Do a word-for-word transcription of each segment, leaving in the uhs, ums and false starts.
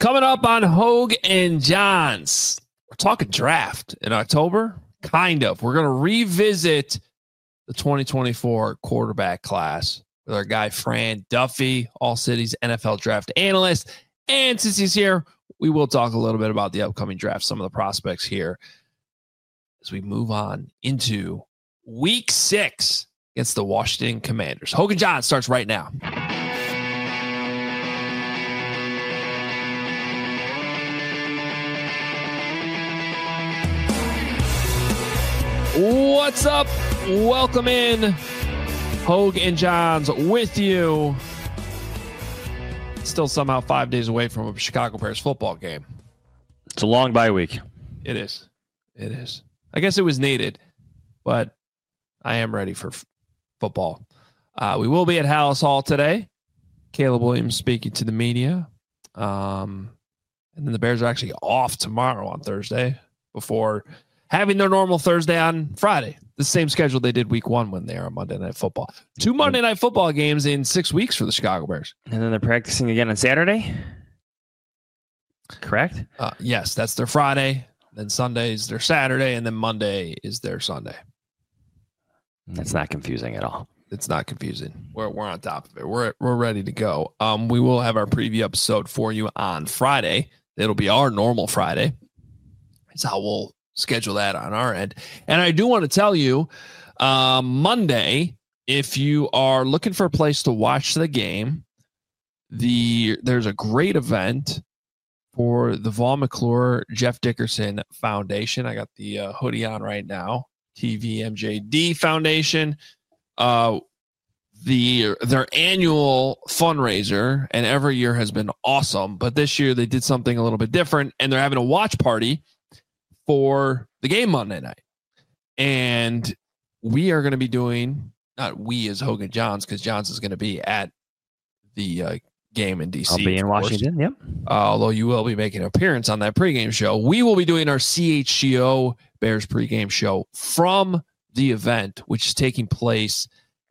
Coming up on Hogue and Johns, we're talking draft in October. Kind of. We're going to revisit the twenty twenty-four quarterback class with our guy Fran Duffy, All City's N F L draft analyst. And since he's here, we will talk a little bit about the upcoming draft, some of the prospects here as we move on into week six against the Washington Commanders. Hogue and Johns starts right now. What's up? Welcome in. Hogue and Johns with you. Still somehow five days away from a Chicago Bears football game. It's a long bye week. It is. It is. I guess it was needed, but I am ready for f- football. Uh, we will be at Hallis Hall today. Caleb Williams speaking to the media. Um, and then the Bears are actually off tomorrow on Thursday before having their normal Thursday on Friday. The same schedule they did week one when they are on Monday Night Football. Two Monday Night Football games in six weeks for the Chicago Bears. And then they're practicing again on Saturday? Correct? Uh, yes, that's their Friday. Then Sunday is their Saturday. And then Monday is their Sunday. That's not confusing at all. It's not confusing. We're we're on top of it. We're we're ready to go. Um, we will have our preview episode for you on Friday. It'll be our normal Friday. That's how we'll schedule that on our end. And I do want to tell you, um, Monday, if you are looking for a place to watch the game, the there's a great event for the Vaughn McClure Jeff Dickerson Foundation. I got the uh, hoodie on right now. T V M J D Foundation. Uh, the their annual fundraiser, and every year has been awesome, but this year they did something a little bit different, and they're having a watch party for the game Monday night. And we are going to be doing, not we as Hogue and Johns, because Johns is going to be at the uh, game in D C. I'll be in Washington, yep. Uh, although you will be making an appearance on that pregame show. We will be doing our C H G O Bears pregame show from the event, which is taking place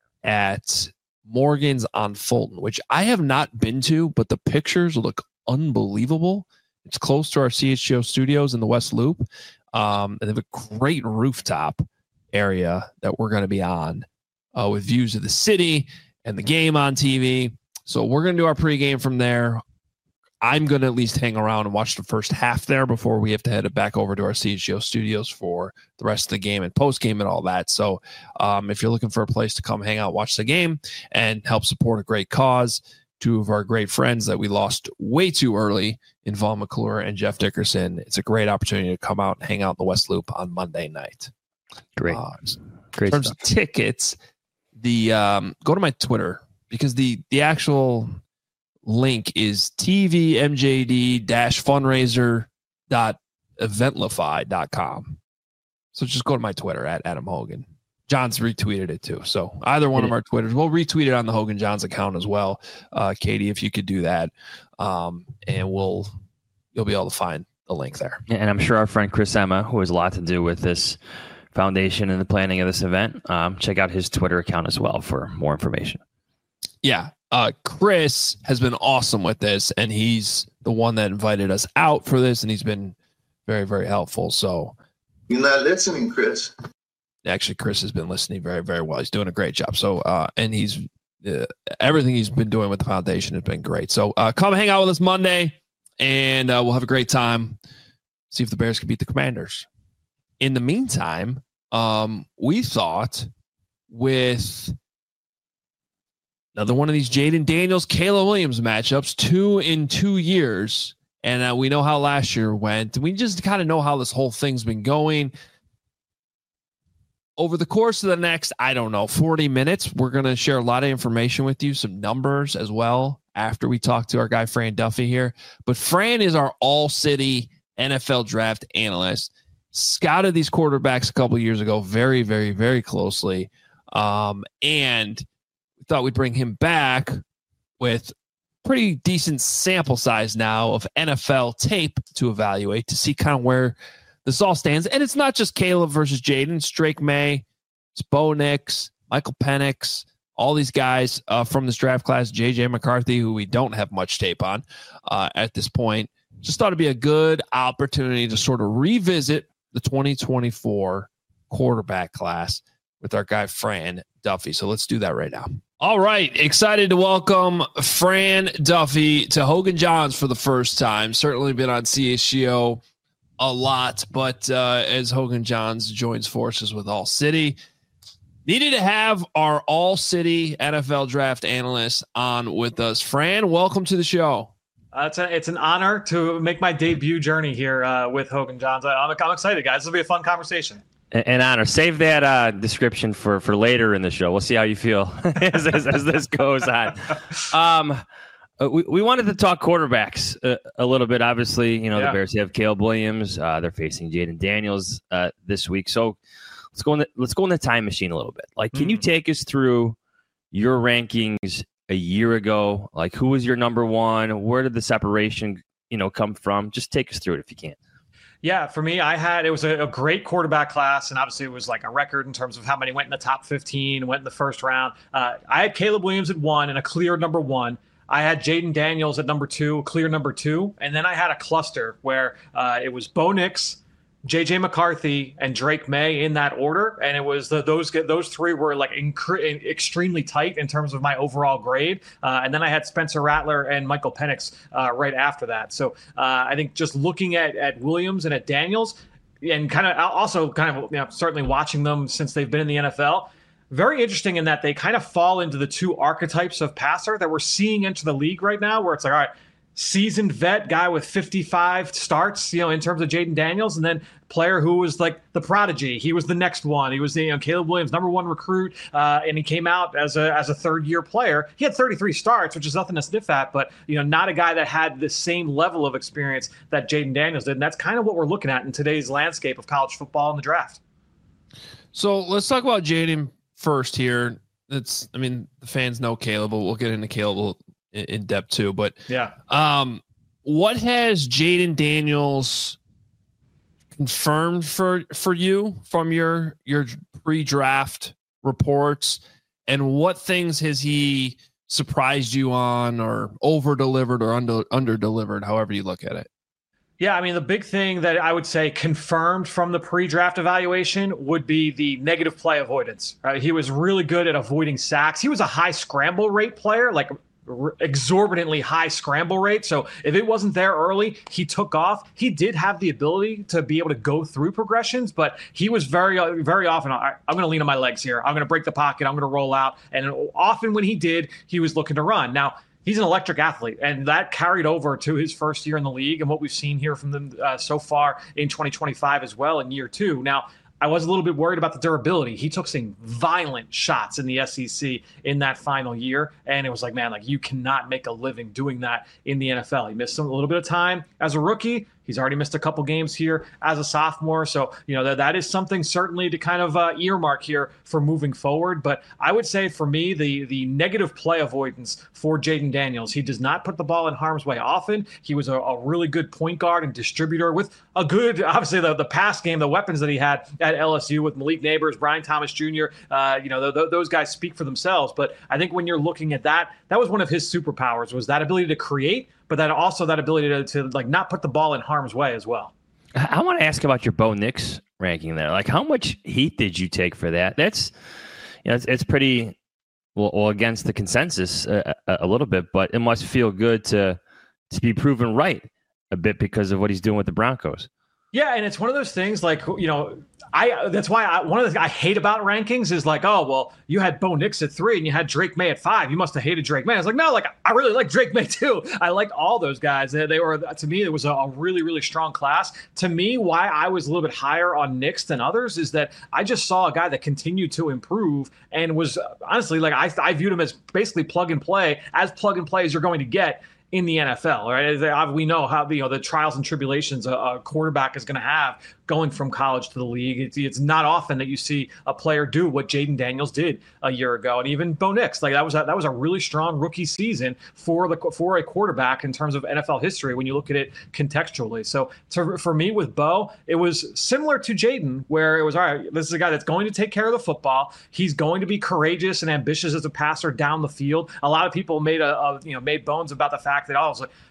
at Morgan's on Fulton, which I have not been to, but the pictures look unbelievable. It's close to our C H G O studios in the West Loop. Um, and they have a great rooftop area that we're going to be on uh, with views of the city and the game on T V. So we're going to do our pregame from there. I'm going to at least hang around and watch the first half there before we have to head back over to our C H G O studios for the rest of the game and postgame and all that. So um, if you're looking for a place to come hang out, watch the game, and help support a great cause, two of our great friends that we lost way too early in Vaughn McClure and Jeff Dickerson, it's a great opportunity to come out and hang out in the West Loop on Monday night. Great. Uh, Great in terms stuff. of tickets, the um, go to my Twitter, because the the actual link is T V M J D fundraiser dot eventlify dot com. So just go to my Twitter at Adam Hogan. John's retweeted it too. So either one of our Twitters, we'll retweet it on the Hogan Johns account as well. Uh, Katie, if you could do that, um, and we'll you'll be able to find the link there. And I'm sure our friend Chris Emma, who has a lot to do with this foundation and the planning of this event, um, check out his Twitter account as well for more information. Yeah. Uh, Chris has been awesome with this, and he's the one that invited us out for this, and he's been very, very helpful. So you're not listening, Chris. Actually, Chris has been listening very, very well. He's doing a great job. So, uh, and he's uh, everything he's been doing with the foundation has been great. So, uh, come hang out with us Monday, and uh, we'll have a great time. See if the Bears can beat the Commanders. In the meantime, um, we thought with another one of these Jaden Daniels, Caleb Williams matchups, two in two years, and uh, we know how last year went. We just kind of know how this whole thing's been going. Over the course of the next, I don't know, forty minutes, we're going to share a lot of information with you, some numbers as well, after we talk to our guy, Fran Duffy here. But Fran is our all-city N F L draft analyst. Scouted these quarterbacks a couple years ago very, very, very closely. Um, and we thought we'd bring him back with pretty decent sample size now of N F L tape to evaluate, to see kind of where this all stands. And it's not just Caleb versus Jaden. It's Drake May, it's Bo Nix, Michael Penix, all these guys uh, from this draft class, J J McCarthy, who we don't have much tape on uh, at this point. just thought it'd be a good opportunity to sort of revisit the twenty twenty-four quarterback class with our guy, Fran Duffy. So let's do that right now. All right. Excited to welcome Fran Duffy to Hogan Johns for the first time. Certainly been on C H G O a lot, but uh, as Hogan Johns joins forces with All City, needed to have our All City N F L draft analyst on with us. Fran, welcome to the show. Uh, it's, a, it's an honor to make my debut journey here uh, with Hogan Johns. I, I'm, I'm excited, guys. This will be a fun conversation. An honor. Save that uh, description for, for later in the show. We'll see how you feel as, as, as this goes on. Um, we, we wanted to talk quarterbacks a, a little bit. Obviously, you know, yeah. the Bears have Caleb Williams. Uh, they're facing Jayden Daniels uh, this week. So let's go in the, let's go in the time machine a little bit. Like, can mm. you take us through your rankings a year ago? Like, who was your number one? Where did the separation, you know, come from? Just take us through it if you can. Yeah, for me, I had, it was a, a great quarterback class, and obviously it was like a record in terms of how many went in the top fifteen, went in the first round. Uh, I had Caleb Williams at one and a clear number one. I had Jayden Daniels at number two, clear number two. And then I had a cluster where uh, it was Bo Nix, J J McCarthy, and Drake May in that order. And it was the, those those three were like inc- extremely tight in terms of my overall grade. Uh, and then I had Spencer Rattler and Michael Penix uh, right after that. So uh, I think just looking at, at Williams and at Daniels, and kind of also kind of, you know, certainly watching them since they've been in the N F L, very interesting in that they kind of fall into the two archetypes of passer that we're seeing enter the league right now, where it's like, all right, seasoned vet guy with fifty-five starts, you know, in terms of Jayden Daniels, and then player who was like the prodigy. He was the next one. He was the, you know, Caleb Williams, number one recruit, uh, and he came out as a as a third year player. He had thirty-three starts, which is nothing to sniff at, but you know, not a guy that had the same level of experience that Jayden Daniels did. And that's kind of what we're looking at in today's landscape of college football and the draft. So let's talk about Jayden first here. It's, I mean, the fans know Caleb, but we'll get into Caleb in depth too. But yeah, um, what has Jayden Daniels confirmed for for you from your your pre-draft reports, and what things has he surprised you on, or over delivered, or under under delivered, however you look at it? Yeah, I mean, the big thing that I would say confirmed from the pre-draft evaluation would be the negative play avoidance. Right? He was really good at avoiding sacks. He was a high scramble rate player, like exorbitantly high scramble rate. So if it wasn't there early, he took off. He did have the ability to be able to go through progressions, but he was very, very often, I'm going to lean on my legs here. I'm going to break the pocket. I'm going to roll out. And often when he did, he was looking to run. Now, he's an electric athlete, and that carried over to his first year in the league and what we've seen here from them uh, so far in twenty twenty-five as well in year two. Now, I was a little bit worried about the durability. He took some violent shots in the S E C in that final year, and it was like, man, like you cannot make a living doing that in the N F L. He missed some, a little bit of time as a rookie. He's already missed a couple games here as a sophomore. So, you know, that, that is something certainly to kind of uh, earmark here for moving forward. But I would say for me, the the negative play avoidance for Jayden Daniels, he does not put the ball in harm's way often. He was a, a really good point guard and distributor with a good, obviously, the, the pass game, the weapons that he had at L S U with Malik Neighbors, Brian Thomas Junior Uh, you know, th- th- those guys speak for themselves. But I think when you're looking at that, that was one of his superpowers, was that ability to create, but then also that ability to, to like not put the ball in harm's way as well. I want to ask about your Bo Nix ranking there. Like, how much heat did you take for that? That's, you know, it's, it's pretty well, well against the consensus a, a, a little bit, but it must feel good to to be proven right a bit because of what he's doing with the Broncos. Yeah, and it's one of those things like, you know, I that's why I, one of the things I hate about rankings is like, oh, well, you had Bo Nix at three and you had Drake May at five. You must have hated Drake May. I was like, no, like I really like Drake May too. I like all those guys. They, they were, to me, it was a, a really, really strong class. To me, why I was a little bit higher on Nix than others is that I just saw a guy that continued to improve and was honestly like, I, I viewed him as basically plug and play, as plug and play as you're going to get in the N F L, right? We know how, you know, the trials and tribulations a, a quarterback is going to have going from college to the league. It's, it's not often that you see a player do what Jayden Daniels did a year ago, and even Bo Nix. Like that was a, that was a really strong rookie season for the for a quarterback in terms of N F L history when you look at it contextually. So to, for me with Bo, it was similar to Jayden, where it was, all right, this is a guy that's going to take care of the football. He's going to be courageous and ambitious as a passer down the field. A lot of people made a, a you know made bones about the fact that, oh, I was like,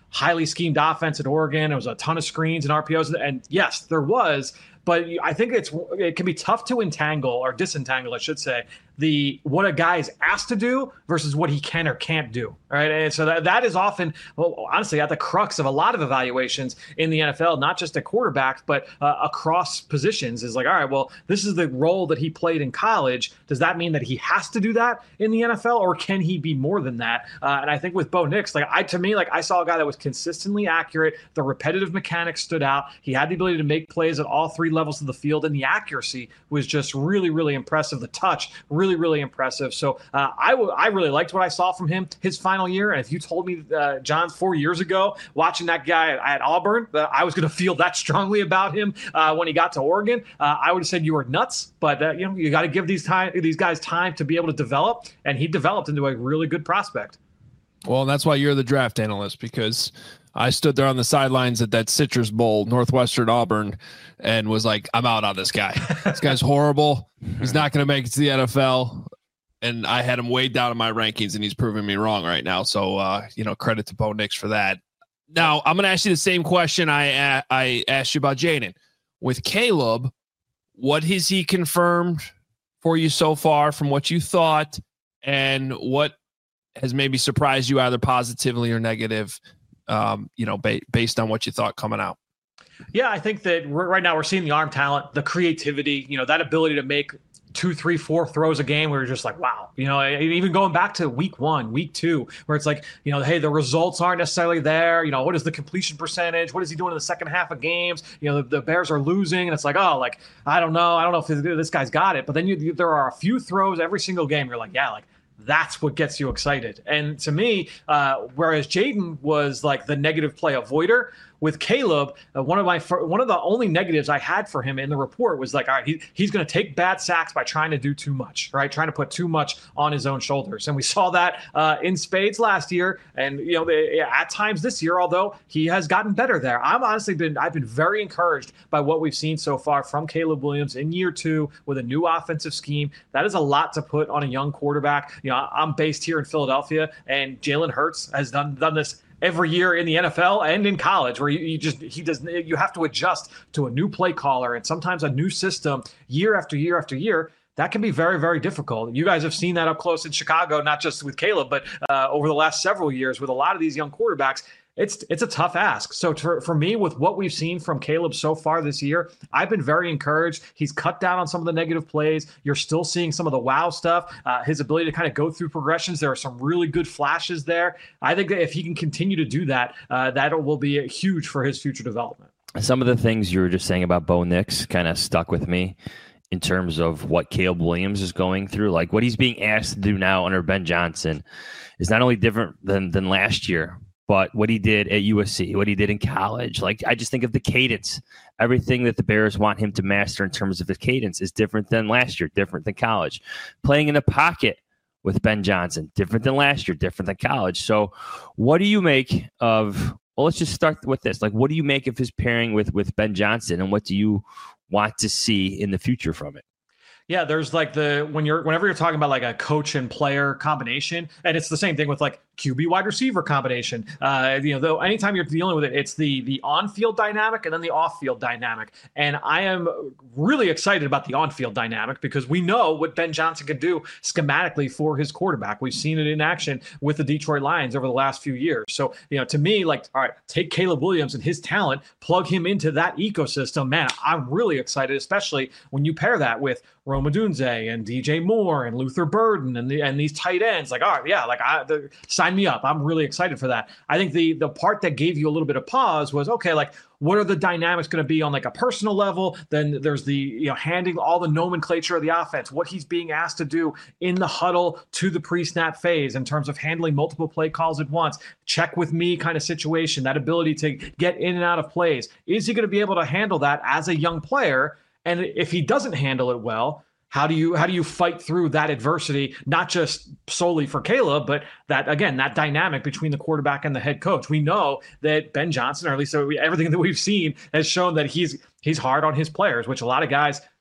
highly schemed offense at Oregon. It was a ton of screens and R P Os. And yes, there was. But I think it's it can be tough to entangle or disentangle, I should say, the what a guy is asked to do versus what he can or can't do. Right. And so that, that is often, well, honestly, at the crux of a lot of evaluations in the N F L, not just at quarterbacks, but uh, across positions is like, all right, well, this is the role that he played in college. Does that mean that he has to do that in the N F L, or can he be more than that? Uh, and I think with Bo Nix, like I to me, like I saw a guy that was consistently accurate. The repetitive mechanics stood out. He had the ability to make plays at all three levels of the field, and the accuracy was just really, really impressive. The touch, really, really impressive. So uh, I, w- I really liked what I saw from him his final year. And if you told me, uh, John, four years ago, watching that guy at, at Auburn, that I was going to feel that strongly about him uh, when he got to Oregon, uh, I would have said you were nuts. But uh, you know, you got to give these time these guys time to be able to develop, and he developed into a really good prospect. Well, that's why you're the draft analyst, because I stood there on the sidelines at that Citrus Bowl, Northwestern Auburn, and was like, I'm out on this guy. This guy's horrible. He's not going to make it to the N F L. And I had him way down in my rankings, and he's proving me wrong right now. So, uh, you know, credit to Bo Nix for that. Now, I'm going to ask you the same question I I asked you about Jayden. With Caleb, what has he confirmed for you so far from what you thought, and what has maybe surprised you either positively or negative, um, you know, ba- based on what you thought coming out? Yeah, I think that we're, right now we're seeing the arm talent, the creativity, you know, that ability to make two, three, four throws a game where you're just like, wow, you know, even going back to week one, week two, where it's like, you know, hey, the results aren't necessarily there. You know, what is the completion percentage? What is he doing in the second half of games? You know, the, the Bears are losing, and it's like, oh, like, I don't know. I don't know if this guy's got it. But then you, you, there are a few throws every single game. You're like, yeah, like, that's what gets you excited. And to me, uh, whereas Jayden was like the negative play avoider, with Caleb, uh, one of my one of the only negatives I had for him in the report was like, all right, he, he's going to take bad sacks by trying to do too much, right? Trying to put too much on his own shoulders. And we saw that uh, in spades last year. And, you know, they, at times this year, although he has gotten better there. I'm honestly been, I've been very encouraged by what we've seen so far from Caleb Williams in year two with a new offensive scheme. That is a lot to put on a young quarterback. You know, I'm based here in Philadelphia, and Jalen Hurts has done, done this every year in the N F L and in college, where you, you just he does you have to adjust to a new play caller and sometimes a new system year after year after year. That can be very, very difficult. You guys have seen that up close in Chicago, not just with Caleb, but uh, over the last several years with a lot of these young quarterbacks. It's it's a tough ask. So for, for me, with what we've seen from Caleb so far this year, I've been very encouraged. He's cut down on some of the negative plays. You're still seeing some of the wow stuff. Uh, his ability to kind of go through progressions. There are some really good flashes there. I think that if he can continue to do that, uh, that will be huge for his future development. Some of the things you were just saying about Bo Nix kind of stuck with me in terms of what Caleb Williams is going through. Like what he's being asked to do now under Ben Johnson is not only different than than last year, but what he did at U S C, what he did in college. Like, I just think of the cadence. Everything that the Bears want him to master in terms of his cadence is different than last year, different than college. Playing in the pocket with Ben Johnson, different than last year, different than college. So what do you make of, well, let's just start with this. Like, what do you make of his pairing with, with Ben Johnson, and what do you want to see in the future from it? Yeah, there's like the, when you're, whenever you're talking about like a coach and player combination, and it's the same thing with like Q B wide receiver combination. Uh, you know, though, anytime you're dealing with it, it's the the on-field dynamic and then the off-field dynamic. And I am really excited about the on-field dynamic because we know what Ben Johnson can do schematically for his quarterback. We've seen it in action with the Detroit Lions over the last few years. So, you know, to me, like, all right, take Caleb Williams and his talent, plug him into that ecosystem. Man, I'm really excited, especially when you pair that with Rome Odunze and D J Moore and Luther Burden and the and these tight ends. Like, all right, yeah, like I the, sign me up. I'm really excited for that. I think the the part that gave you a little bit of pause was, okay, like, what are the dynamics going to be on like a personal level? Then there's the, you know, handing all the nomenclature of the offense, what he's being asked to do in the huddle to the pre-snap phase in terms of handling multiple play calls at once, check with me kind of situation, that ability to get in and out of plays. Is he going to be able to handle that as a young player? And if he doesn't handle it well, how do you how do you fight through that adversity, not just solely for Caleb, but that, again, that dynamic between the quarterback and the head coach? We know that Ben Johnson, or at least everything that we've seen, has shown that he's he's hard on his players, which a lot of guys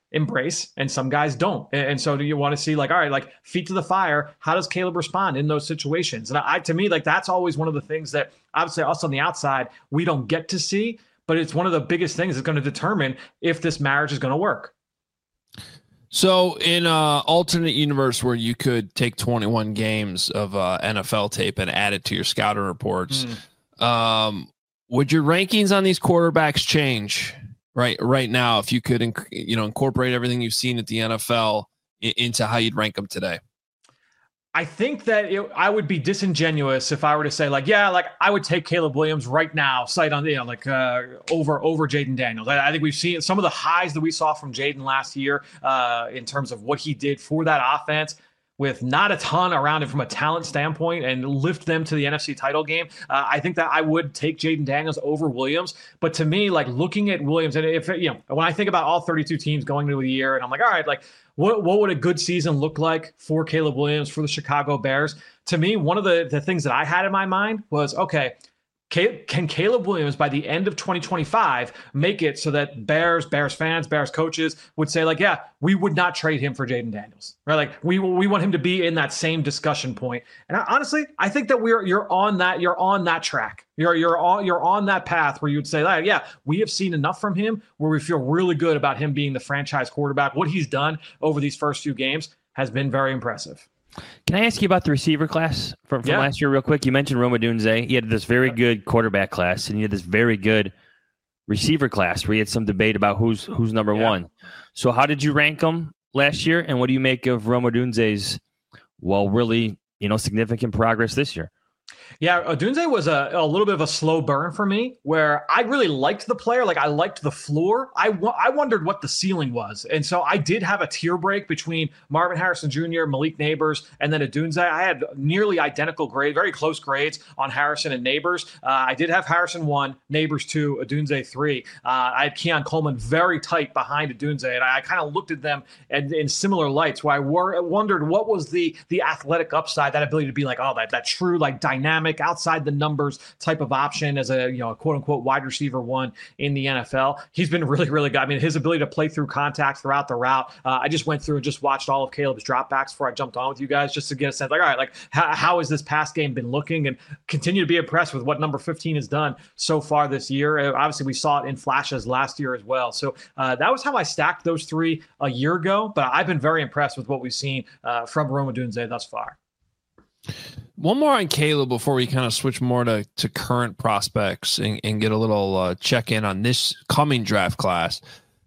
embrace and some guys don't. And, and so do you want to see like, all right, like feet to the fire, how does Caleb respond in those situations? And I, to me, like that's always one of the things that obviously us on the outside, we don't get to see, but it's one of the biggest things that's going to determine if this marriage is going to work. So in an alternate universe where you could take twenty-one games of uh, N F L tape and add it to your scouting reports, mm. um, would your rankings on these quarterbacks change right right now if you could inc- you know incorporate everything you've seen at the N F L I- into how you'd rank them today? I think that it, I would be disingenuous if I were to say like, yeah, like I would take Caleb Williams right now, sight on, you know, like uh, over over Jayden Daniels. I, I think we've seen some of the highs that we saw from Jayden last year uh, in terms of what he did for that offense with not a ton around him from a talent standpoint and lift them to the N F C title game. Uh, I think that I would take Jayden Daniels over Williams. But to me, like looking at Williams, and if, you know, when I think about all thirty-two teams going into the year and I'm like, all right, like, What what would a good season look like for Caleb Williams, for the Chicago Bears? To me, one of the, the things that I had in my mind was, okay, can Caleb Williams by the end of twenty twenty-five make it so that Bears, Bears fans, Bears coaches would say like, yeah, we would not trade him for Jayden Daniels, right? Like we we want him to be in that same discussion point. And I, honestly, I think that we're you're on that you're on that track. You're you're on you're on that path where you'd say like, yeah, we have seen enough from him where we feel really good about him being the franchise quarterback. What he's done over these first few games has been very impressive. Can I ask you about the receiver class from, from yeah. last year real quick? You mentioned Rome Odunze. He had this very good quarterback class, and he had this very good receiver class where he had some debate about who's who's number yeah. one. So how did you rank them last year, and what do you make of Rome Odunze's, well, really, you know, significant progress this year? Yeah, Odunze was a, a little bit of a slow burn for me where I really liked the player. Like I liked the floor. I, w- I wondered what the ceiling was. And so I did have a tier break between Marvin Harrison Junior, Malik Neighbors, and then Odunze. I had nearly identical grade, very close grades on Harrison and Neighbors. Uh, I did have Harrison one, Neighbors two, Odunze three. Uh, I had Keon Coleman very tight behind Odunze. And I, I kind of looked at them in, in similar lights where I wor- wondered what was the the athletic upside, that ability to be like, oh, that, that true like dynamic, outside the numbers type of option as a, you know, a quote unquote wide receiver one in the N F L. He's been really, really good. I mean, his ability to play through contact throughout the route. Uh, I just went through and just watched all of Caleb's dropbacks before I jumped on with you guys, just to get a sense like, all right, like how, how has this pass game been looking, and continue to be impressed with what number fifteen has done so far this year. Uh, obviously we saw it in flashes last year as well. So uh, that was how I stacked those three a year ago, but I've been very impressed with what we've seen uh, from Rome Odunze thus far. One more on Caleb before we kind of switch more to, to current prospects and, and get a little uh, check in on this coming draft class.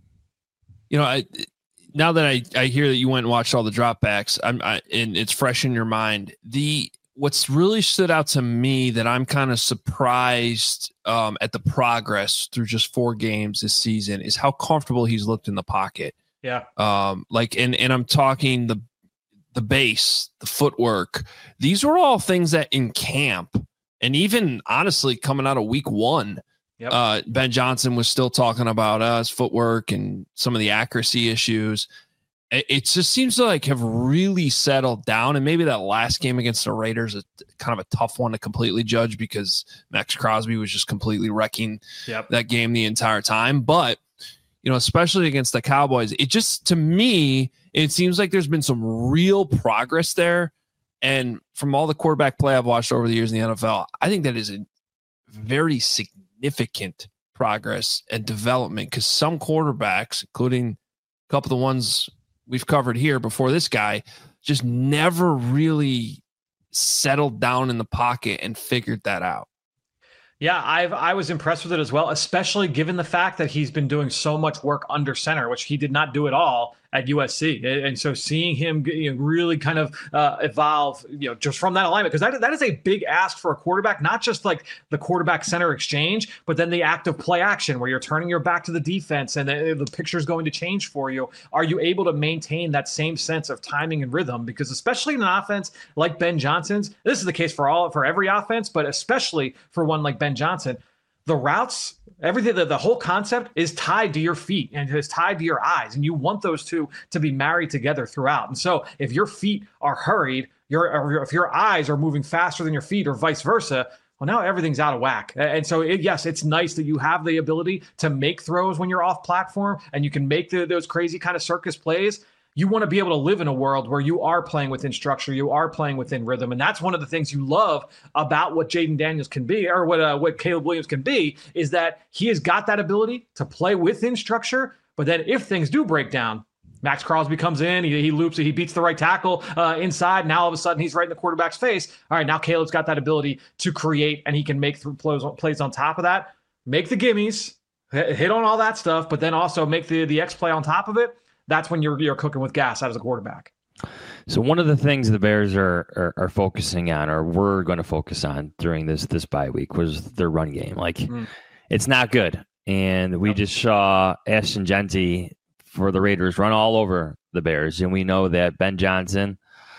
You know, I, now that I, I hear that you went and watched all the dropbacks, I'm I, and it's fresh in your mind. The what's really stood out to me that I'm kind of surprised um, at the progress through just four games this season is how comfortable he's looked in the pocket. Yeah. Um, like, and and I'm talking the. the base, the footwork. These were all things that in camp and even honestly coming out of week one, yep. uh, Ben Johnson was still talking about us uh, footwork and some of the accuracy issues. It, it just seems to like have really settled down. And maybe that last game against the Raiders is kind of a tough one to completely judge because Max Crosby was just completely wrecking yep. that game the entire time. But you know, especially against the Cowboys, it just, to me, it seems like there's been some real progress there. And from all the quarterback play I've watched over the years in the N F L, I think that is a very significant progress and development because some quarterbacks, including a couple of the ones we've covered here before this guy, just never really settled down in the pocket and figured that out. Yeah, I've I was impressed with it as well, especially given the fact that he's been doing so much work under center, which he did not do at all at U S C. And so seeing him, you know, really kind of uh, evolve, you know, just from that alignment, because that, that is a big ask for a quarterback, not just like the quarterback center exchange, but then the active play action where you're turning your back to the defense and the, the picture is going to change for you. Are you able to maintain that same sense of timing and rhythm? Because especially in an offense like Ben Johnson's, this is the case for all for every offense, but especially for one like Ben Johnson, the routes, everything, the, the whole concept is tied to your feet and is tied to your eyes. And you want those two to be married together throughout. And so if your feet are hurried, your, or if your eyes are moving faster than your feet or vice versa, Well, now everything's out of whack. And so, it, yes, it's nice that you have the ability to make throws when you're off platform and you can make the, those crazy kind of circus plays. You want to be able to live in a world where you are playing within structure, you are playing within rhythm. And that's one of the things you love about what Jayden Daniels can be, or what uh, what Caleb Williams can be, is that he has got that ability to play within structure. But then if things do break down, Max Crosby comes in, he, he loops, he beats the right tackle uh, inside. Now all of a sudden he's right in the quarterback's face. All right, now Caleb's got that ability to create, and he can make th- plays, plays on top of that, make the gimmies, hit, hit on all that stuff, but then also make the, the X play on top of it. That's when you're you're cooking with gas out as a quarterback. So one of the things the Bears are are, are focusing on, or we're going to focus on during this this bye week, was their run game. Like mm. it's not good, and we yep. just saw Ashton Jeanty for the Raiders run all over the Bears, and we know that Ben Johnson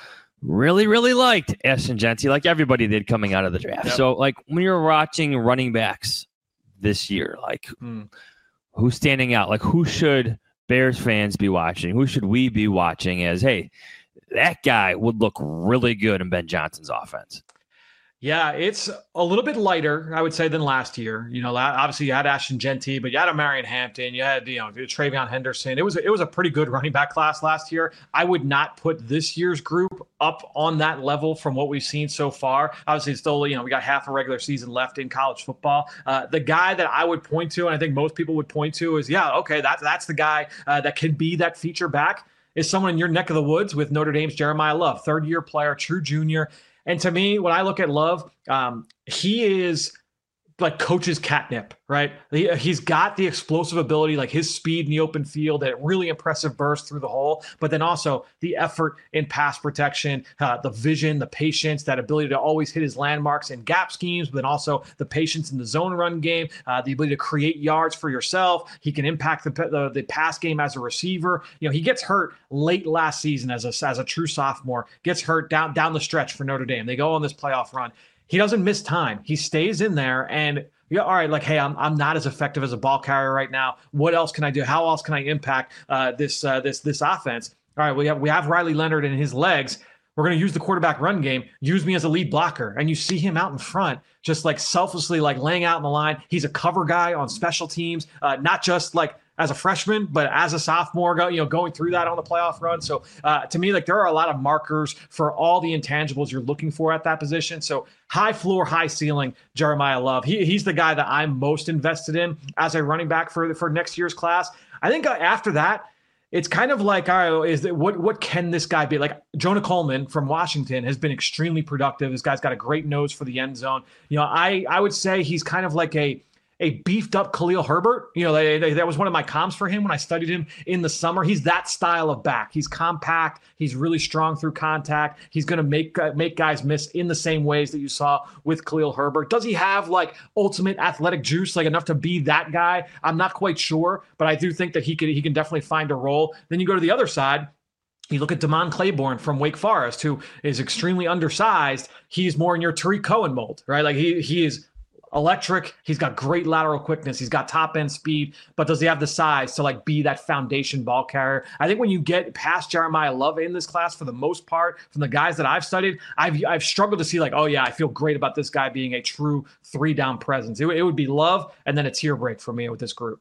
really really liked Ashton Jeanty, like everybody did coming out of the draft. Yep. So like when you're watching running backs this year, like mm. who's standing out? Like who should Bears fans be watching? Who should we be watching as, hey, that guy would look really good in Ben Johnson's offense? Yeah, it's a little bit lighter, I would say, than last year. You know, obviously you had Ashton Jeanty, but you had a Marion Hampton, you had, you know, Travion Henderson. It was it was a pretty good running back class last year. I would not put this year's group up on that level from what we've seen so far. Obviously, it's still, you know, we got half a regular season left in college football. Uh, the guy that I would point to, and I think most people would point to, is, yeah, okay, that's that's the guy uh, that can be that feature back, is someone in your neck of the woods with Notre Dame's Jeremiah Love, third-year player, true junior. And to me, when I look at Love, um, he is like coach's catnip, right? He, he's got the explosive ability, like his speed in the open field, that really impressive burst through the hole, but then also the effort in pass protection, uh, the vision, the patience, that ability to always hit his landmarks in gap schemes, but then also the patience in the zone run game, uh, the ability to create yards for yourself. He can impact the, the the pass game as a receiver. You know, he gets hurt late last season as a as a true sophomore, gets hurt down down the stretch for Notre Dame. They go on this playoff run. He doesn't miss time. He stays in there, and yeah, all right, like, hey, I'm I'm not as effective as a ball carrier right now. What else can I do? How else can I impact uh, this uh, this this offense? All right, we have we have Riley Leonard and his legs. We're going to use the quarterback run game. Use me as a lead blocker, and you see him out in front, just like selflessly, like laying out in the line. He's a cover guy on special teams, uh, not just like as a freshman, but as a sophomore, go, you know, going through that on the playoff run. So uh, to me, like, there are a lot of markers for all the intangibles you're looking for at that position. So high floor, high ceiling, Jeremiah Love. He, he's the guy that I'm most invested in as a running back for, for next year's class. I think after that, it's kind of like, all right, is that what what can this guy be? Like Jonah Coleman from Washington has been extremely productive. This guy's got a great nose for the end zone. You know, I I would say he's kind of like a a beefed up Khalil Herbert. You know, they, they, that was one of my comps for him when I studied him in the summer. He's that style of back. He's compact. He's really strong through contact. He's going to make uh, make guys miss in the same ways that you saw with Khalil Herbert. Does he have like ultimate athletic juice, like enough to be that guy? I'm not quite sure, but I do think that he can he can definitely find a role. Then you go to the other side. You look at Damon Claiborne from Wake Forest, who is extremely undersized. He's more in your Tariq Cohen mold, right? Like he he is electric. He's got great lateral quickness. He's got top end speed, but does he have the size to like be that foundation ball carrier? I think when you get past Jeremiah Love in this class, for the most part, from the guys that I've studied, I've I've struggled to see like, oh yeah, I feel great about this guy being a true three down presence. It, it would be Love and then a tier break for me with this group.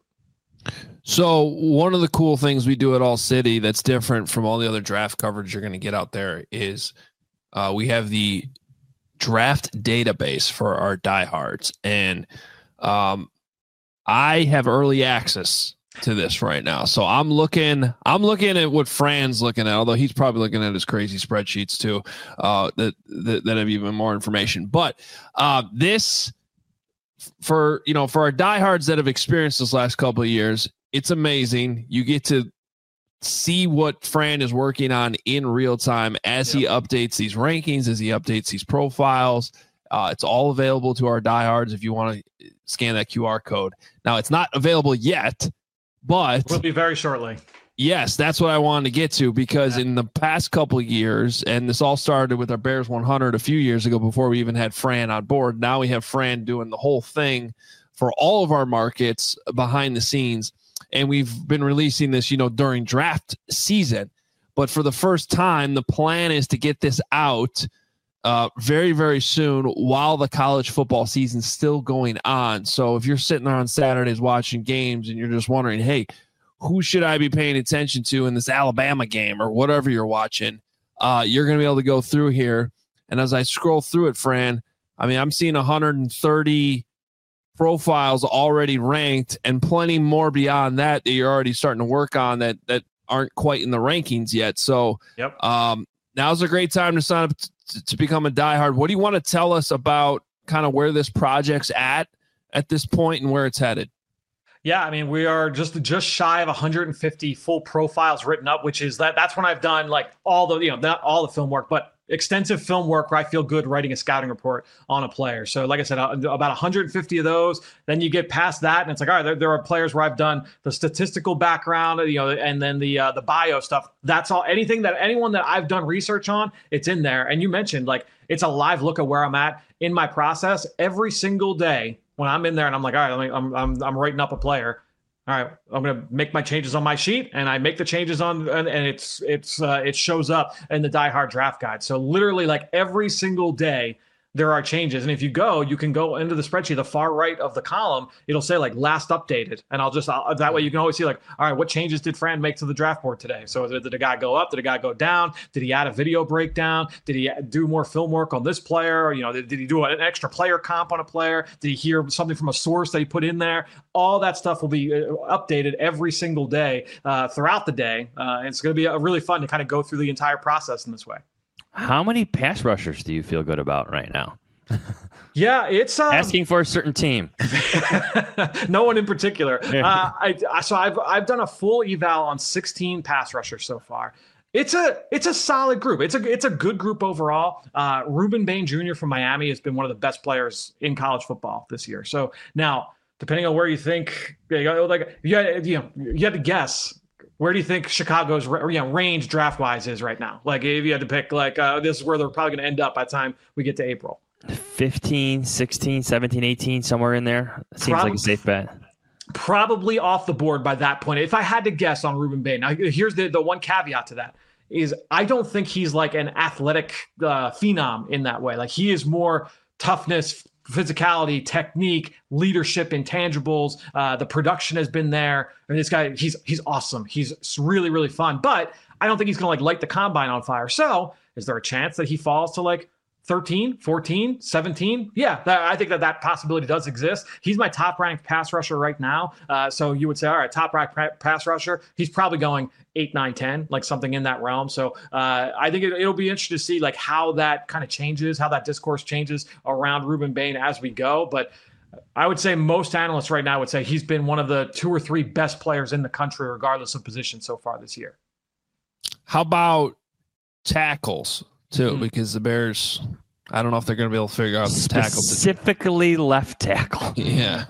So one of the cool things we do at All City that's different from all the other draft coverage you're going to get out there is uh, we have the draft database for our diehards, and um, I have early access to this right now. So I'm looking, I'm looking at what Fran's looking at, although he's probably looking at his crazy spreadsheets too, uh, that, that that have even more information. But uh, this, for you know, for our diehards that have experienced this last couple of years, it's amazing. You get to see what Fran is working on in real time as yep. he updates these rankings, as he updates these profiles. Uh, it's all available to our diehards if you want to scan that Q R code. Now, it's not available yet, but will be very shortly. Yes, that's what I wanted to get to, because yeah. in the past couple of years, and this all started with our Bears one hundred a few years ago before we even had Fran on board. Now we have Fran doing the whole thing for all of our markets behind the scenes. And we've been releasing this, you know, during draft season. But for the first time, the plan is to get this out uh, very, very soon while the college football season's still going on. So if you're sitting there on Saturdays watching games and you're just wondering, hey, who should I be paying attention to in this Alabama game or whatever you're watching, uh, you're going to be able to go through here. And as I scroll through it, Fran, I mean, I'm seeing one hundred thirty profiles already ranked and plenty more beyond that that you're already starting to work on that that aren't quite in the rankings yet. So yep. um, now's a great time to sign up to, to become a diehard. What do you want to tell us about kind of where this project's at at this point and where it's headed? Yeah, I mean, we are just just shy of one hundred fifty full profiles written up, which is that that's when I've done like all the, you know, not all the film work, but extensive film work where I feel good writing a scouting report on a player. So like I said, about one hundred fifty of those. Then you get past that and it's like, all right, there, there are players where I've done the statistical background, you know, and then the uh, the bio stuff. That's all. Anything that anyone that I've done research on, it's in there. And you mentioned like it's a live look at where I'm at in my process every single day. When I'm in there and I'm like, all right, I'm I'm I'm writing up a player. All right, I'm gonna make my changes on my sheet, and I make the changes on, and, and it's it's uh, it shows up in the Die Hard Draft Guide. So literally, like every single day, there are changes. And if you go, you can go into the spreadsheet, the far right of the column, it'll say like last updated. And I'll just, I'll, that way you can always see like, all right, what changes did Fran make to the draft board today? So did the guy go up? Did the guy go down? Did he add a video breakdown? Did he do more film work on this player? Or, you know, did, did he do an extra player comp on a player? Did he hear something from a source that he put in there? All that stuff will be updated every single day uh, throughout the day. Uh, and it's going to be a, really fun to kind of go through the entire process in this way. How many pass rushers do you feel good about right now? Yeah, it's um, asking for a certain team. No one in particular. Uh, I, I so I've I've done a full eval on sixteen pass rushers so far. It's a it's a solid group. It's a it's a good group overall. Uh, Ruben Bain Junior from Miami has been one of the best players in college football this year. So now, depending on where you think, like you had, you know, you had to guess. Where do you think Chicago's you know, range draft wise is right now? Like if you had to pick, like uh, this is where they're probably going to end up by the time we get to April. fifteen, sixteen, seventeen, eighteen, somewhere in there. It seems probably, like a safe bet. Probably off the board by that point. If I had to guess on Ruben Bain. Now, here's the, the one caveat to that is I don't think he's like an athletic uh, phenom in that way. Like he is more toughness, physicality, technique, leadership, intangibles. Uh, the production has been there. I mean, this guy, he's he's awesome. He's really, really fun. But I don't think he's going to like light the combine on fire. So is there a chance that he falls to like thirteen, fourteen, seventeen? Yeah, that, I think that that possibility does exist. He's my top-ranked pass rusher right now. Uh, so you would say, all right, top-ranked pass rusher. He's probably going eight, nine, ten, like something in that realm. So uh, I think it, it'll be interesting to see like how that kind of changes, how that discourse changes around Ruben Bain as we go. But I would say most analysts right now would say he's been one of the two or three best players in the country, regardless of position so far this year. How about tackles? Too, mm-hmm. because the Bears, I don't know if they're going to be able to figure out the tackle. Specifically left tackle. Yeah.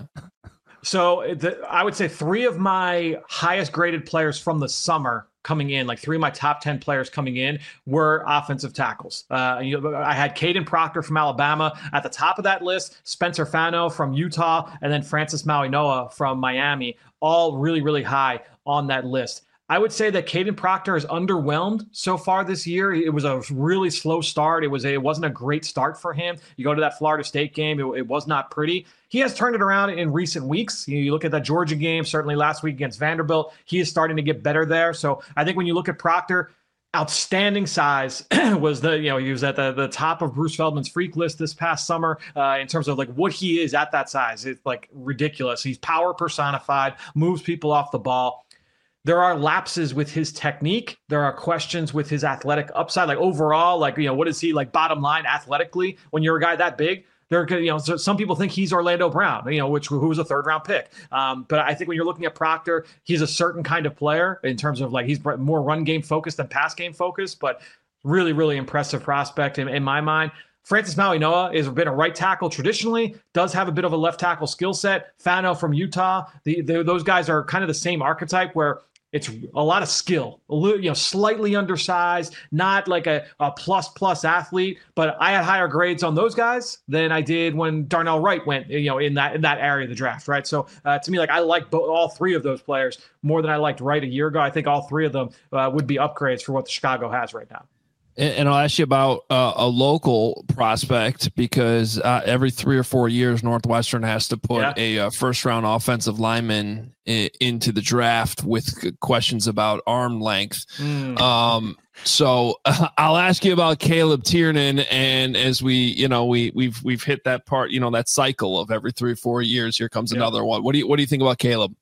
So the, I would say three of my highest graded players from the summer coming in, like three of my top ten players coming in, were offensive tackles. Uh, you know, I had Caden Proctor from Alabama at the top of that list, Spencer Fano from Utah, and then Francis Mauigoa from Miami, all really, really high on that list. I would say that Caden Proctor is underwhelmed so far this year. It was a really slow start. It was a, it wasn't a great start for him. You go to that Florida State game, it, it was not pretty. He has turned it around in recent weeks. You, you look at that Georgia game, certainly last week against Vanderbilt, he is starting to get better there. So I think when you look at Proctor, outstanding size was the, you know, he was at the, the top of Bruce Feldman's freak list this past summer uh, in terms of like what he is at that size. It's like ridiculous. He's power personified, moves people off the ball. There are lapses with his technique. There are questions with his athletic upside. Like overall, like, you know, what is he like bottom line athletically when you're a guy that big? There, you know, so some people think he's Orlando Brown, you know, which who was a third round pick. Um, but I think when you're looking at Proctor, he's a certain kind of player in terms of like he's more run game focused than pass game focused, but really, really impressive prospect in, in my mind. Francis Mauigoa has been a right tackle traditionally, does have a bit of a left tackle skill set. Fano from Utah, the, the, those guys are kind of the same archetype where it's a lot of skill, a little, you know, slightly undersized, not like a, a plus plus athlete. But I had higher grades on those guys than I did when Darnell Wright went, you know, in that in that area of the draft, right? So uh, to me, like I like both, all three of those players more than I liked Wright a year ago. I think all three of them uh, would be upgrades for what the Chicago has right now. And I'll ask you about uh, a local prospect because uh, every three or four years, Northwestern has to put yeah. a, a first round offensive lineman I- into the draft with questions about arm length. Mm. Um, so uh, I'll ask you about Caleb Tiernan. And as we, you know, we we've we've hit that part, you know, that cycle of every three or four years, here comes yeah. another one. What do you what do you think about Caleb?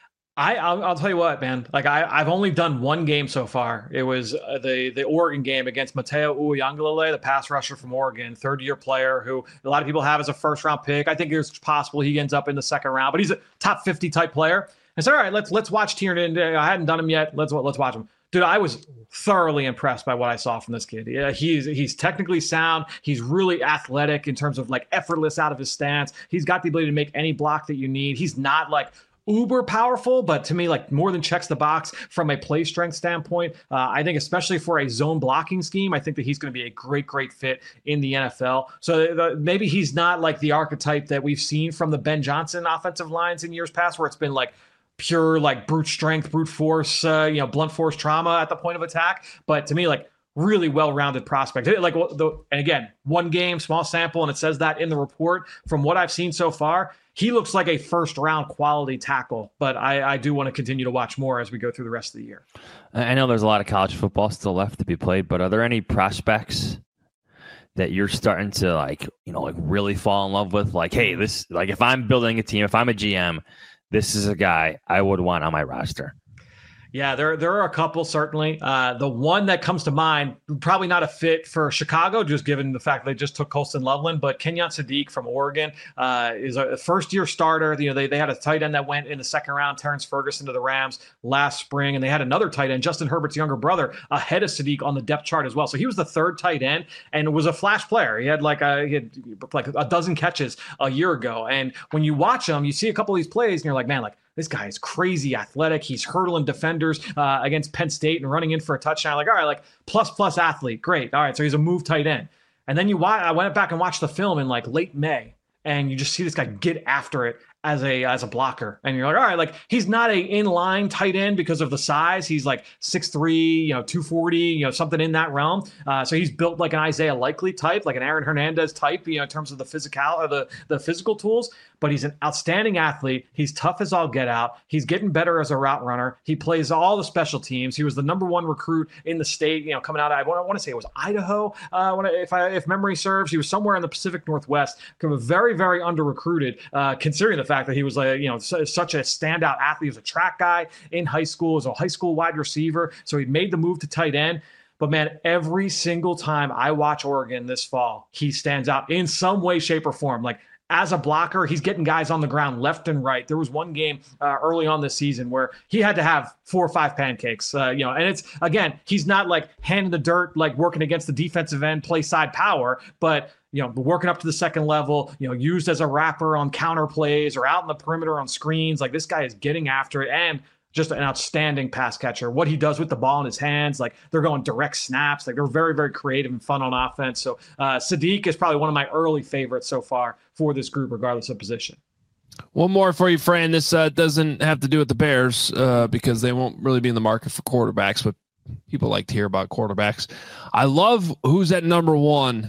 I I'll, I'll tell you what, man. Like I I've only done one game so far. It was uh, the the Oregon game against Mateo Uiagalelei, the pass rusher from Oregon, third year player who a lot of people have as a first round pick. I think it's possible he ends up in the second round, but he's a top fifty type player. I said, all right, let's let's watch Tiernan. I hadn't done him yet. Let's let's watch him. Dude, I was thoroughly impressed by what I saw from this kid. Yeah, he's he's technically sound. He's really athletic in terms of like effortless out of his stance. He's got the ability to make any block that you need. He's not like uber powerful, but to me, like more than checks the box from a play strength standpoint. Uh, I think especially for a zone blocking scheme, I think that he's going to be a great, great fit in the N F L. So the, maybe he's not like the archetype that we've seen from the Ben Johnson offensive lines in years past, where it's been like pure like brute strength, brute force, uh, you know, blunt force trauma at the point of attack. But to me, like really well-rounded prospect. Like the, and again, one game, small sample, and it says that in the report. From what I've seen so far, he looks like a first-round quality tackle, but I, I do want to continue to watch more as we go through the rest of the year. I know there's a lot of college football still left to be played, but are there any prospects that you're starting to like, you know, like really fall in love with? Like, hey, this, like if I'm building a team, if I'm a G M, this is a guy I would want on my roster. Yeah, there there are a couple, certainly. Uh, the one that comes to mind, probably not a fit for Chicago, just given the fact they just took Colston Loveland, but Kenyon Sadiq from Oregon uh, is a first-year starter. You know, they, they had a tight end that went in the second round, Terrence Ferguson to the Rams last spring, and they had another tight end, Justin Herbert's younger brother, ahead of Sadiq on the depth chart as well. So he was the third tight end and was a flash player. He had like a, he had like a dozen catches a year ago. And when you watch him, you see a couple of these plays, and you're like, man, like, this guy is crazy athletic. He's hurdling defenders uh, against Penn State and running in for a touchdown. Like, all right, like plus plus athlete, great. All right, so he's a move tight end. And then you watch. I went back and watched the film in like late May, and you just see this guy get after it as a as a blocker, and you're like, all right, like he's not a inline tight end because of the size. He's like six three, you know, two forty, you know, something in that realm. Uh, so he's built like an Isaiah Likely type, like an Aaron Hernandez type, you know, in terms of the physical or the the physical tools. But he's an outstanding athlete. He's tough as all get out. He's getting better as a route runner. He plays all the special teams. He was the number one recruit in the state, you know, coming out of, I want, I want to say it was Idaho, uh, when I, if I, if memory serves. He was somewhere in the Pacific Northwest. Very, very under-recruited, uh, considering the fact that he was, like, you know, su- such a standout athlete. He was a track guy in high school, as a high school wide receiver. So he made the move to tight end. But, man, every single time I watch Oregon this fall, he stands out in some way, shape, or form. Like, as a blocker, he's getting guys on the ground left and right. There was one game uh, early on this season where he had to have four or five pancakes, uh, you know, and it's, again, he's not like hand in the dirt, like working against the defensive end, play side power, but, you know, working up to the second level, you know, used as a wrapper on counter plays or out in the perimeter on screens. Like, this guy is getting after it, and just an outstanding pass catcher. What he does with the ball in his hands, like they're going direct snaps. Like they're very, very creative and fun on offense. So uh, Sadiq is probably one of my early favorites so far for this group, regardless of position. One more for you, Fran. This uh, doesn't have to do with the Bears uh, because they won't really be in the market for quarterbacks, but people like to hear about quarterbacks. I love who's at number one.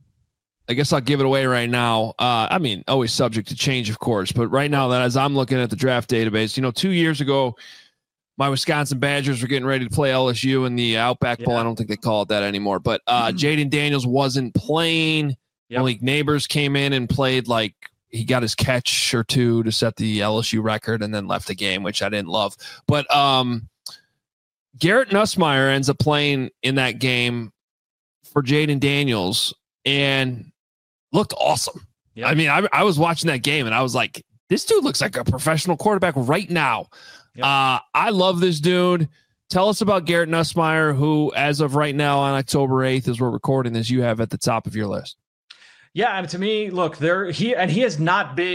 I guess I'll give it away right now. Uh, I mean, always subject to change, of course. But right now, that as I'm looking at the draft database, you know, two years ago, my Wisconsin Badgers were getting ready to play L S U in the Outback Bowl. Yeah. I don't think they call it that anymore. But uh, mm-hmm. Jaden Daniels wasn't playing. Yep. Malik Neighbors came in and played like he got his catch or two to set the L S U record and then left the game, which I didn't love. But um, Garrett Nussmeier ends up playing in that game for Jaden Daniels and looked awesome. Yep. I mean, I, I was watching that game and I was like, this dude looks like a professional quarterback right now. Yep. Uh, I love this dude. Tell us about Garrett Nussmeier, who, as of right now on October eighth, as we're recording this, you have at the top of your list. Yeah, and to me, look, there he and he has not been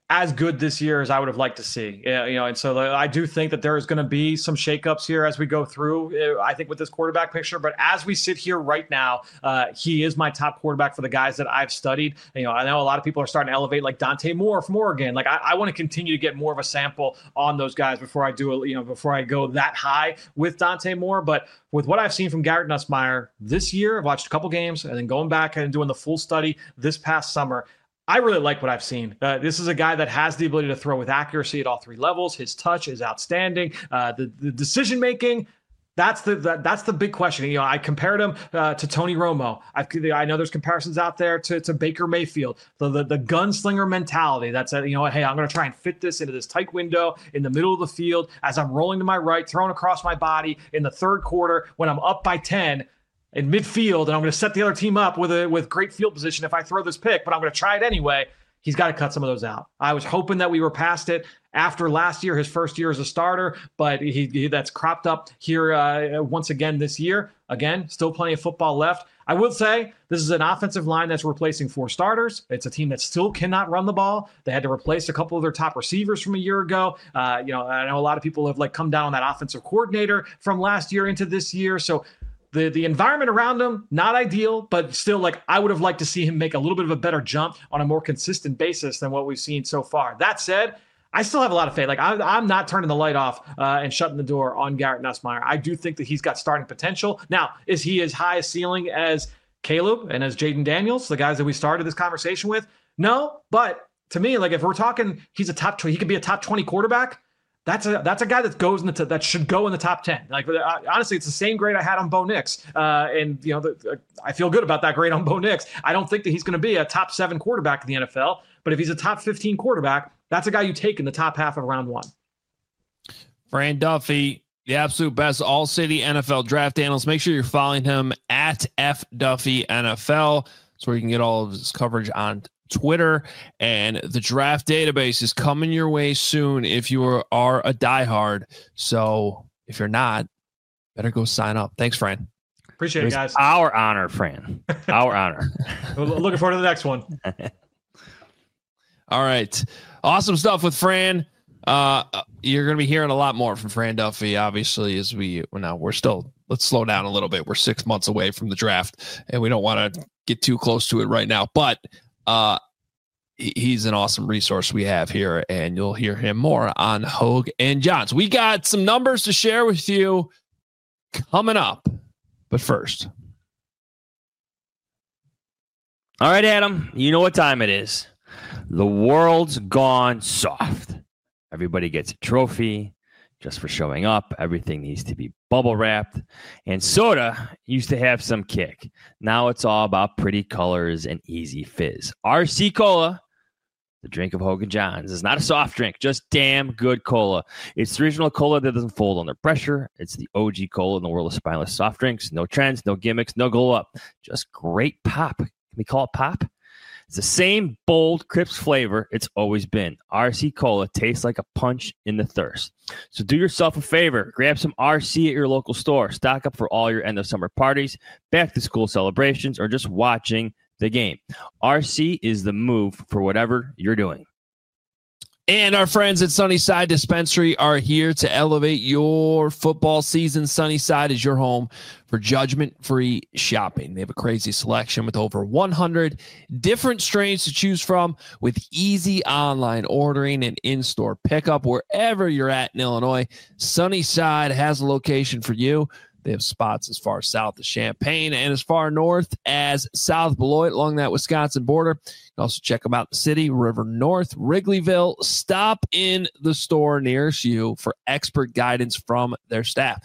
as good this year as I would have liked to see. Yeah, you know, and so I do think that there is going to be some shakeups here as we go through, I think, with this quarterback picture. But as we sit here right now, uh, he is my top quarterback for the guys that I've studied. You know, I know a lot of people are starting to elevate like Dante Moore from Oregon. Like I, I want to continue to get more of a sample on those guys before I do it, you know, before I go that high with Dante Moore. But with what I've seen from Garrett Nussmeier this year, I've watched a couple games and then going back and doing the full study this past summer, I really like what I've seen. Uh, this is a guy that has the ability to throw with accuracy at all three levels. His touch is outstanding. Uh, the, the decision-making, that's the that, that's the big question. You know, I compared him uh, to Tony Romo. I've, I know there's comparisons out there to, to Baker Mayfield. The, the the gunslinger mentality. That's a, you know, hey, I'm going to try and fit this into this tight window in the middle of the field as I'm rolling to my right, throwing across my body in the third quarter when I'm up by ten. In midfield, and I'm going to set the other team up with a with great field position if I throw this pick, but I'm going to try it anyway. He's got to cut some of those out. I was hoping that we were past it after last year, his first year as a starter, but he, he that's cropped up here uh, once again this year. Again, still plenty of football left. I will say this is an offensive line that's replacing four starters. It's a team that still cannot run the ball. They had to replace a couple of their top receivers from a year ago. Uh, you know, I know a lot of people have like come down on that offensive coordinator from last year into this year. So The the environment around him, not ideal, but still, like, I would have liked to see him make a little bit of a better jump on a more consistent basis than what we've seen so far. That said, I still have a lot of faith. Like, I, I'm not turning the light off uh, and shutting the door on Garrett Nussmeier. I do think that he's got starting potential. Now, is he as high a ceiling as Caleb and as Jaden Daniels, the guys that we started this conversation with? No, but to me, like, if we're talking he's a top twenty, he could be a top twenty quarterback. That's a that's a guy that goes in the t- that should go in the top ten. Like uh, honestly, it's the same grade I had on Bo Nix, uh, and you know the, uh, I feel good about that grade on Bo Nix. I don't think that he's going to be a top seven quarterback in the N F L, but if he's a top fifteen quarterback, that's a guy you take in the top half of round one. Fran Duffy, the absolute best all-city N F L draft analyst. Make sure you're following him at F Duffy N F L. That's where you can get all of his coverage on Twitter, and the draft database is coming your way soon if you are, are a diehard. So if you're not, better go sign up. Thanks, Fran. Appreciate it, it guys. Our honor, Fran. Our honor. Looking forward to the next one. All right. Awesome stuff with Fran. Uh, you're going to be hearing a lot more from Fran Duffy, obviously, as we, well, now we're still, let's slow down a little bit. We're six months away from the draft, and we don't want to get too close to it right now, but Uh, he's an awesome resource we have here, and you'll hear him more on Hogue and Johns. We got some numbers to share with you coming up, but first. All right, Adam, you know what time it is. The world's gone soft. Everybody gets a trophy just for showing up. Everything needs to be bubble wrapped. And soda used to have some kick. Now it's all about pretty colors and easy fizz. R C Cola, the drink of Hogue and Johns, is not a soft drink, just damn good cola. It's the original cola that doesn't fold under pressure. It's the O G cola in the world of spineless soft drinks. No trends, no gimmicks, no glow up. Just great pop. Can we call it pop? It's the same bold, crisp flavor it's always been. R C Cola tastes like a punch in the thirst. So do yourself a favor. Grab some R C at your local store. Stock up for all your end of summer parties, back to school celebrations, or just watching the game. R C is the move for whatever you're doing. And our friends at Sunnyside Dispensary are here to elevate your football season. Sunnyside is your home for judgment-free shopping. They have a crazy selection with over one hundred different strains to choose from, with easy online ordering and in-store pickup wherever you're at in Illinois. Sunnyside has a location for you. They have spots as far south as Champaign and as far north as South Beloit along that Wisconsin border. You can also check them out in the city, River North, Wrigleyville. Stop in the store nearest you for expert guidance from their staff.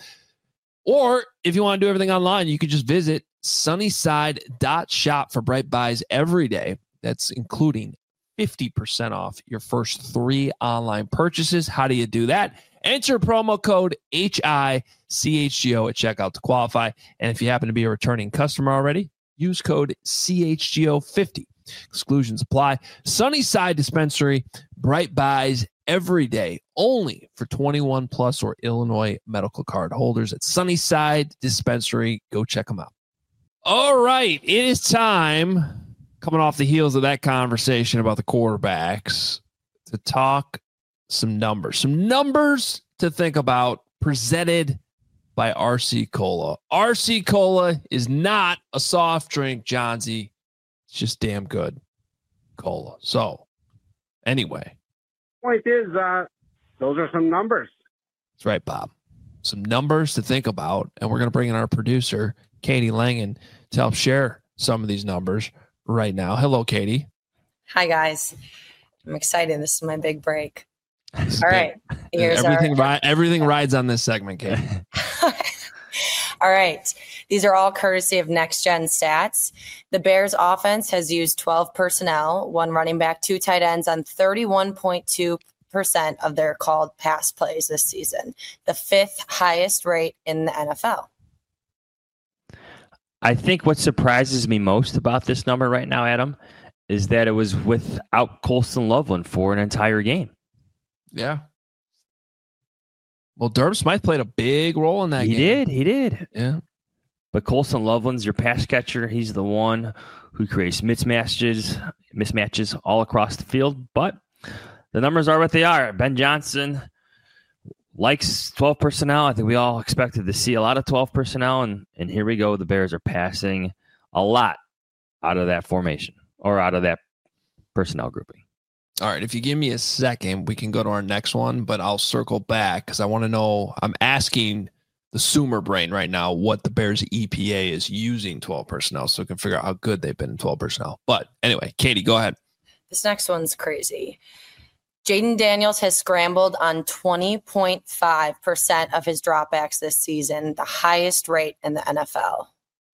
Or if you want to do everything online, you could just visit sunnyside dot shop for bright buys every day. That's including fifty percent off your first three online purchases. How do you do that? Enter promo code H I C H G O at checkout to qualify. And if you happen to be a returning customer already, use code C H G O fifty. Exclusions apply. Sunnyside Dispensary, bright buys every day, only for twenty-one plus or Illinois medical card holders at Sunnyside Dispensary. Go check them out. All right, it is time, coming off the heels of that conversation about the quarterbacks, to talk some numbers. Some numbers to think about, presented by R C Cola. R C Cola is not a soft drink, Johnsy. It's just damn good cola. So, anyway. Point is, uh, those are some numbers. That's right, Bob. Some numbers to think about. And we're going to bring in our producer, Katie Langen, to help share some of these numbers right now. Hello, Katie. Hi, guys. I'm excited. This is my big break. All right. Here's everything, our- ri- everything rides on this segment, Katie. All right. These are all courtesy of Next Gen Stats. The Bears offense has used twelve personnel, one running back, two tight ends on thirty-one point two percent of their called pass plays this season, the fifth highest rate in the N F L. I think what surprises me most about this number right now, Adam, is that it was without Colston Loveland for an entire game. Yeah. Well, Durham Smythe played a big role in that he game. He did. He did. Yeah. But Colston Loveland's your pass catcher. He's the one who creates mismatches, mismatches all across the field. But the numbers are what they are. Ben Johnson likes twelve personnel. I think we all expected to see a lot of twelve personnel. And, and here we go. The Bears are passing a lot out of that formation or out of that personnel grouping. All right. If you give me a second, we can go to our next one, but I'll circle back because I want to know. I'm asking the Sumer brain right now what the Bears E P A is using twelve personnel so we can figure out how good they've been in twelve personnel. But anyway, Katie, go ahead. This next one's crazy. Jaden Daniels has scrambled on twenty point five percent of his dropbacks this season, the highest rate in the N F L.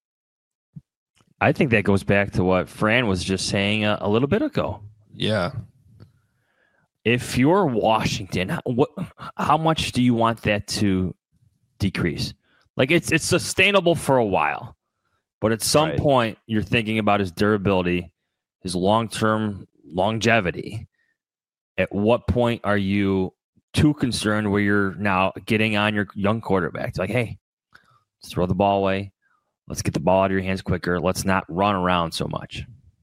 I think that goes back to what Fran was just saying a, a little bit ago. Yeah. If you're Washington, what, how much do you want that to decrease? Like it's it's sustainable for a while, but at some Right. point you're thinking about his durability, his long-term longevity. At what point are you too concerned where you're now getting on your young quarterback? It's like, hey, let's throw the ball away. Let's get the ball out of your hands quicker. Let's not run around so much.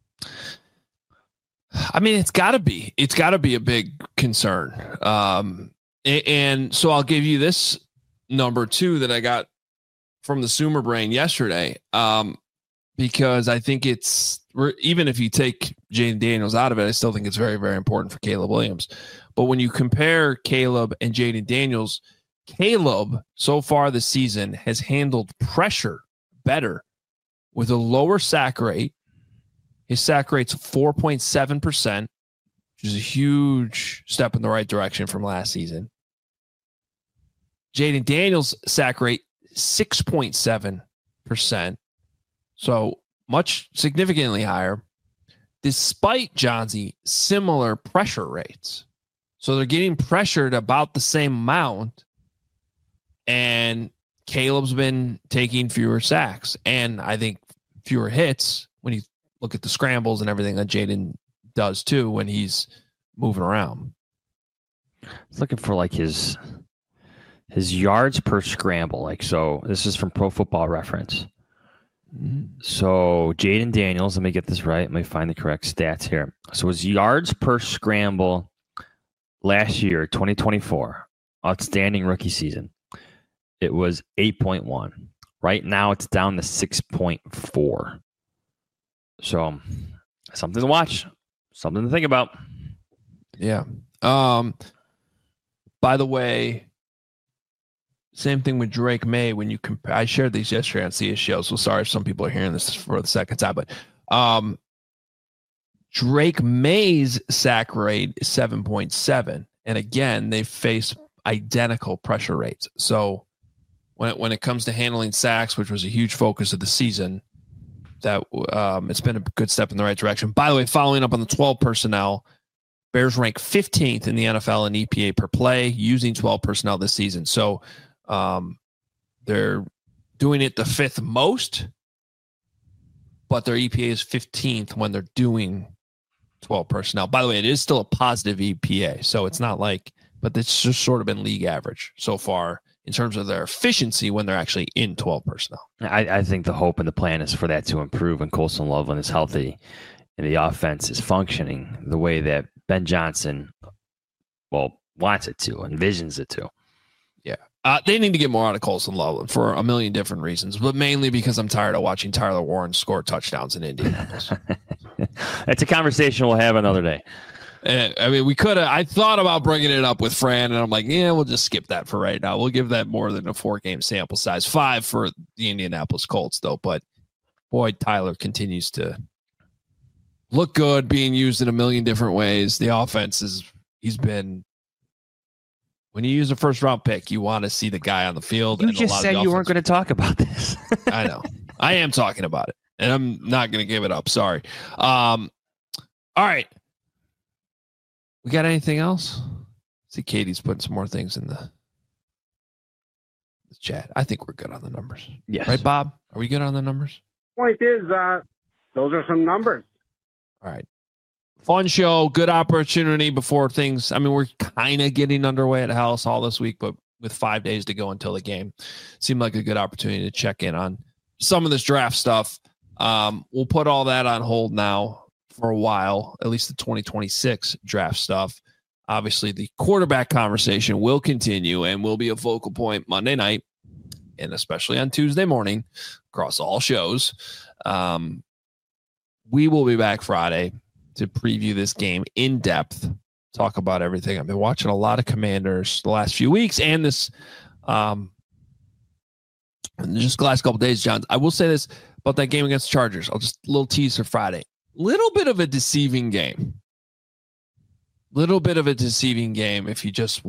I mean, it's got to be. It's got to be a big concern. Um, and, and so I'll give you this number two that I got from the Sumer brain yesterday, um, because I think it's even if you take Jaden Daniels out of it, I still think it's very, very important for Caleb Williams. But when you compare Caleb and Jaden Daniels, Caleb so far this season has handled pressure better with a lower sack rate. His sack rate's four point seven percent, which is a huge step in the right direction from last season. Jaden Daniels' sack rate, six point seven percent. So much significantly higher, despite Johnsy, similar pressure rates. So they're getting pressured about the same amount, and Caleb's been taking fewer sacks, and I think fewer hits when you look at the scrambles and everything that Jaden does too when he's moving around. I was looking for like his his yards per scramble. Like, so this is from Pro Football Reference. So Jaden Daniels, let me get this right. Let me find the correct stats here. So his yards per scramble last year, twenty twenty-four, outstanding rookie season, it was eight point one. Right now it's down to six point four. So something to watch, something to think about. Yeah. Um, by the way, same thing with Drake May. When you compare, I shared these yesterday on C S Show, so sorry if some people are hearing this for the second time, but um, Drake May's sack rate is seven point seven. And again, they face identical pressure rates. So when it, when it comes to handling sacks, which was a huge focus of the season, that um, it's been a good step in the right direction. By the way, following up on the twelve personnel, Bears rank fifteenth in the N F L in E P A per play using twelve personnel this season. So um, they're doing it the fifth most, but their E P A is fifteenth when they're doing twelve personnel. By the way, it is still a positive E P A, so it's not like, but it's just sort of been league average so far in terms of their efficiency when they're actually in twelve personnel. I, I think the hope and the plan is for that to improve when Colston Loveland is healthy and the offense is functioning the way that Ben Johnson well, wants it to, envisions it to. Yeah. Uh, they need to get more out of Colson Loveland for a million different reasons, but mainly because I'm tired of watching Tyler Warren score touchdowns in Indianapolis. That's a conversation we'll have another day. Uh, I mean, we could have. I thought about bringing it up with Fran, and I'm like, yeah, we'll just skip that for right now. We'll give that more than a four game sample size. Five for the Indianapolis Colts, though. But boy, Tyler continues to look good, being used in a million different ways. The offense is, he's been, when you use a first round pick, you want to see the guy on the field. You and just said you weren't going to talk about this. I know. I am talking about it, and I'm not going to give it up. Sorry. Um, all right. We got anything else? See, Katie's putting some more things in the, the chat. I think we're good on the numbers. Yes. Right, Bob? Are we good on the numbers? Point is, uh, those are some numbers. All right. Fun show. Good opportunity before things. I mean, we're kind of getting underway at House Hall this week, but with five days to go until the game, seemed like a good opportunity to check in on some of this draft stuff. Um, we'll put all that on hold now for a while, at least the twenty twenty-six draft stuff. Obviously, the quarterback conversation will continue and will be a focal point Monday night and especially on Tuesday morning across all shows. Um, we will be back Friday to preview this game in depth, talk about everything. I've been watching a lot of Commanders the last few weeks and this um, just the last couple of days, John. I will say this about that game against the Chargers. I'll just a little tease for Friday. Little bit of a deceiving game. Little bit of a deceiving game if you just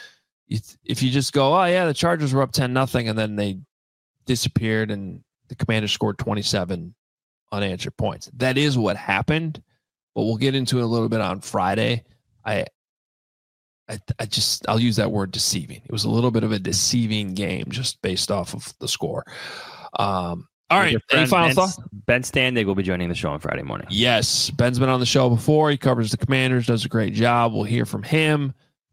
if you just go, oh yeah, the Chargers were up ten nothing, and then they disappeared and the Commanders scored twenty-seven unanswered points. That is what happened, but we'll get into it a little bit on Friday. I I, I just I'll use that word deceiving. It was a little bit of a deceiving game just based off of the score. Um All right. Any final Ben, thoughts? Ben Standig will be joining the show on Friday morning. Yes. Ben's been on the show before. He covers the Commanders, does a great job. We'll hear from him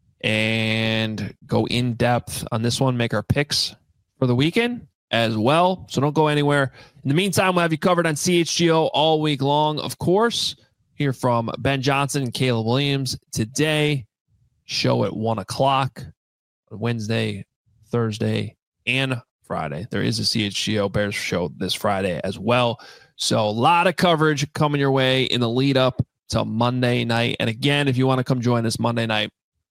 and go in depth on this one, make our picks for the weekend as well. So don't go anywhere. In the meantime, we'll have you covered on C H G O all week long, of course. Hear from Ben Johnson and Caleb Williams today. Show at one o'clock Wednesday, Thursday, and Friday. There is a C H G O Bears show this Friday as well. So a lot of coverage coming your way in the lead up to Monday night. And again, if you want to come join us Monday night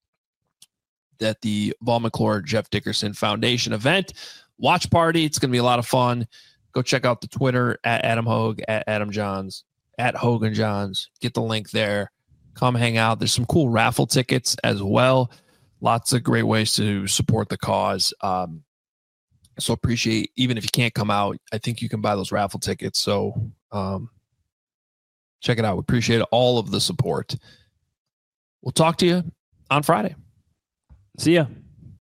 at the Vol McClure Jeff Dickerson Foundation event, watch party. It's going to be a lot of fun. Go check out the Twitter at Adam Hogue, at Adam Johns, at Hogan Johns. Get the link there. Come hang out. There's some cool raffle tickets as well. Lots of great ways to support the cause. Um, So appreciate, even if you can't come out, I think you can buy those raffle tickets. So um, check it out. We appreciate all of the support. We'll talk to you on Friday. See ya.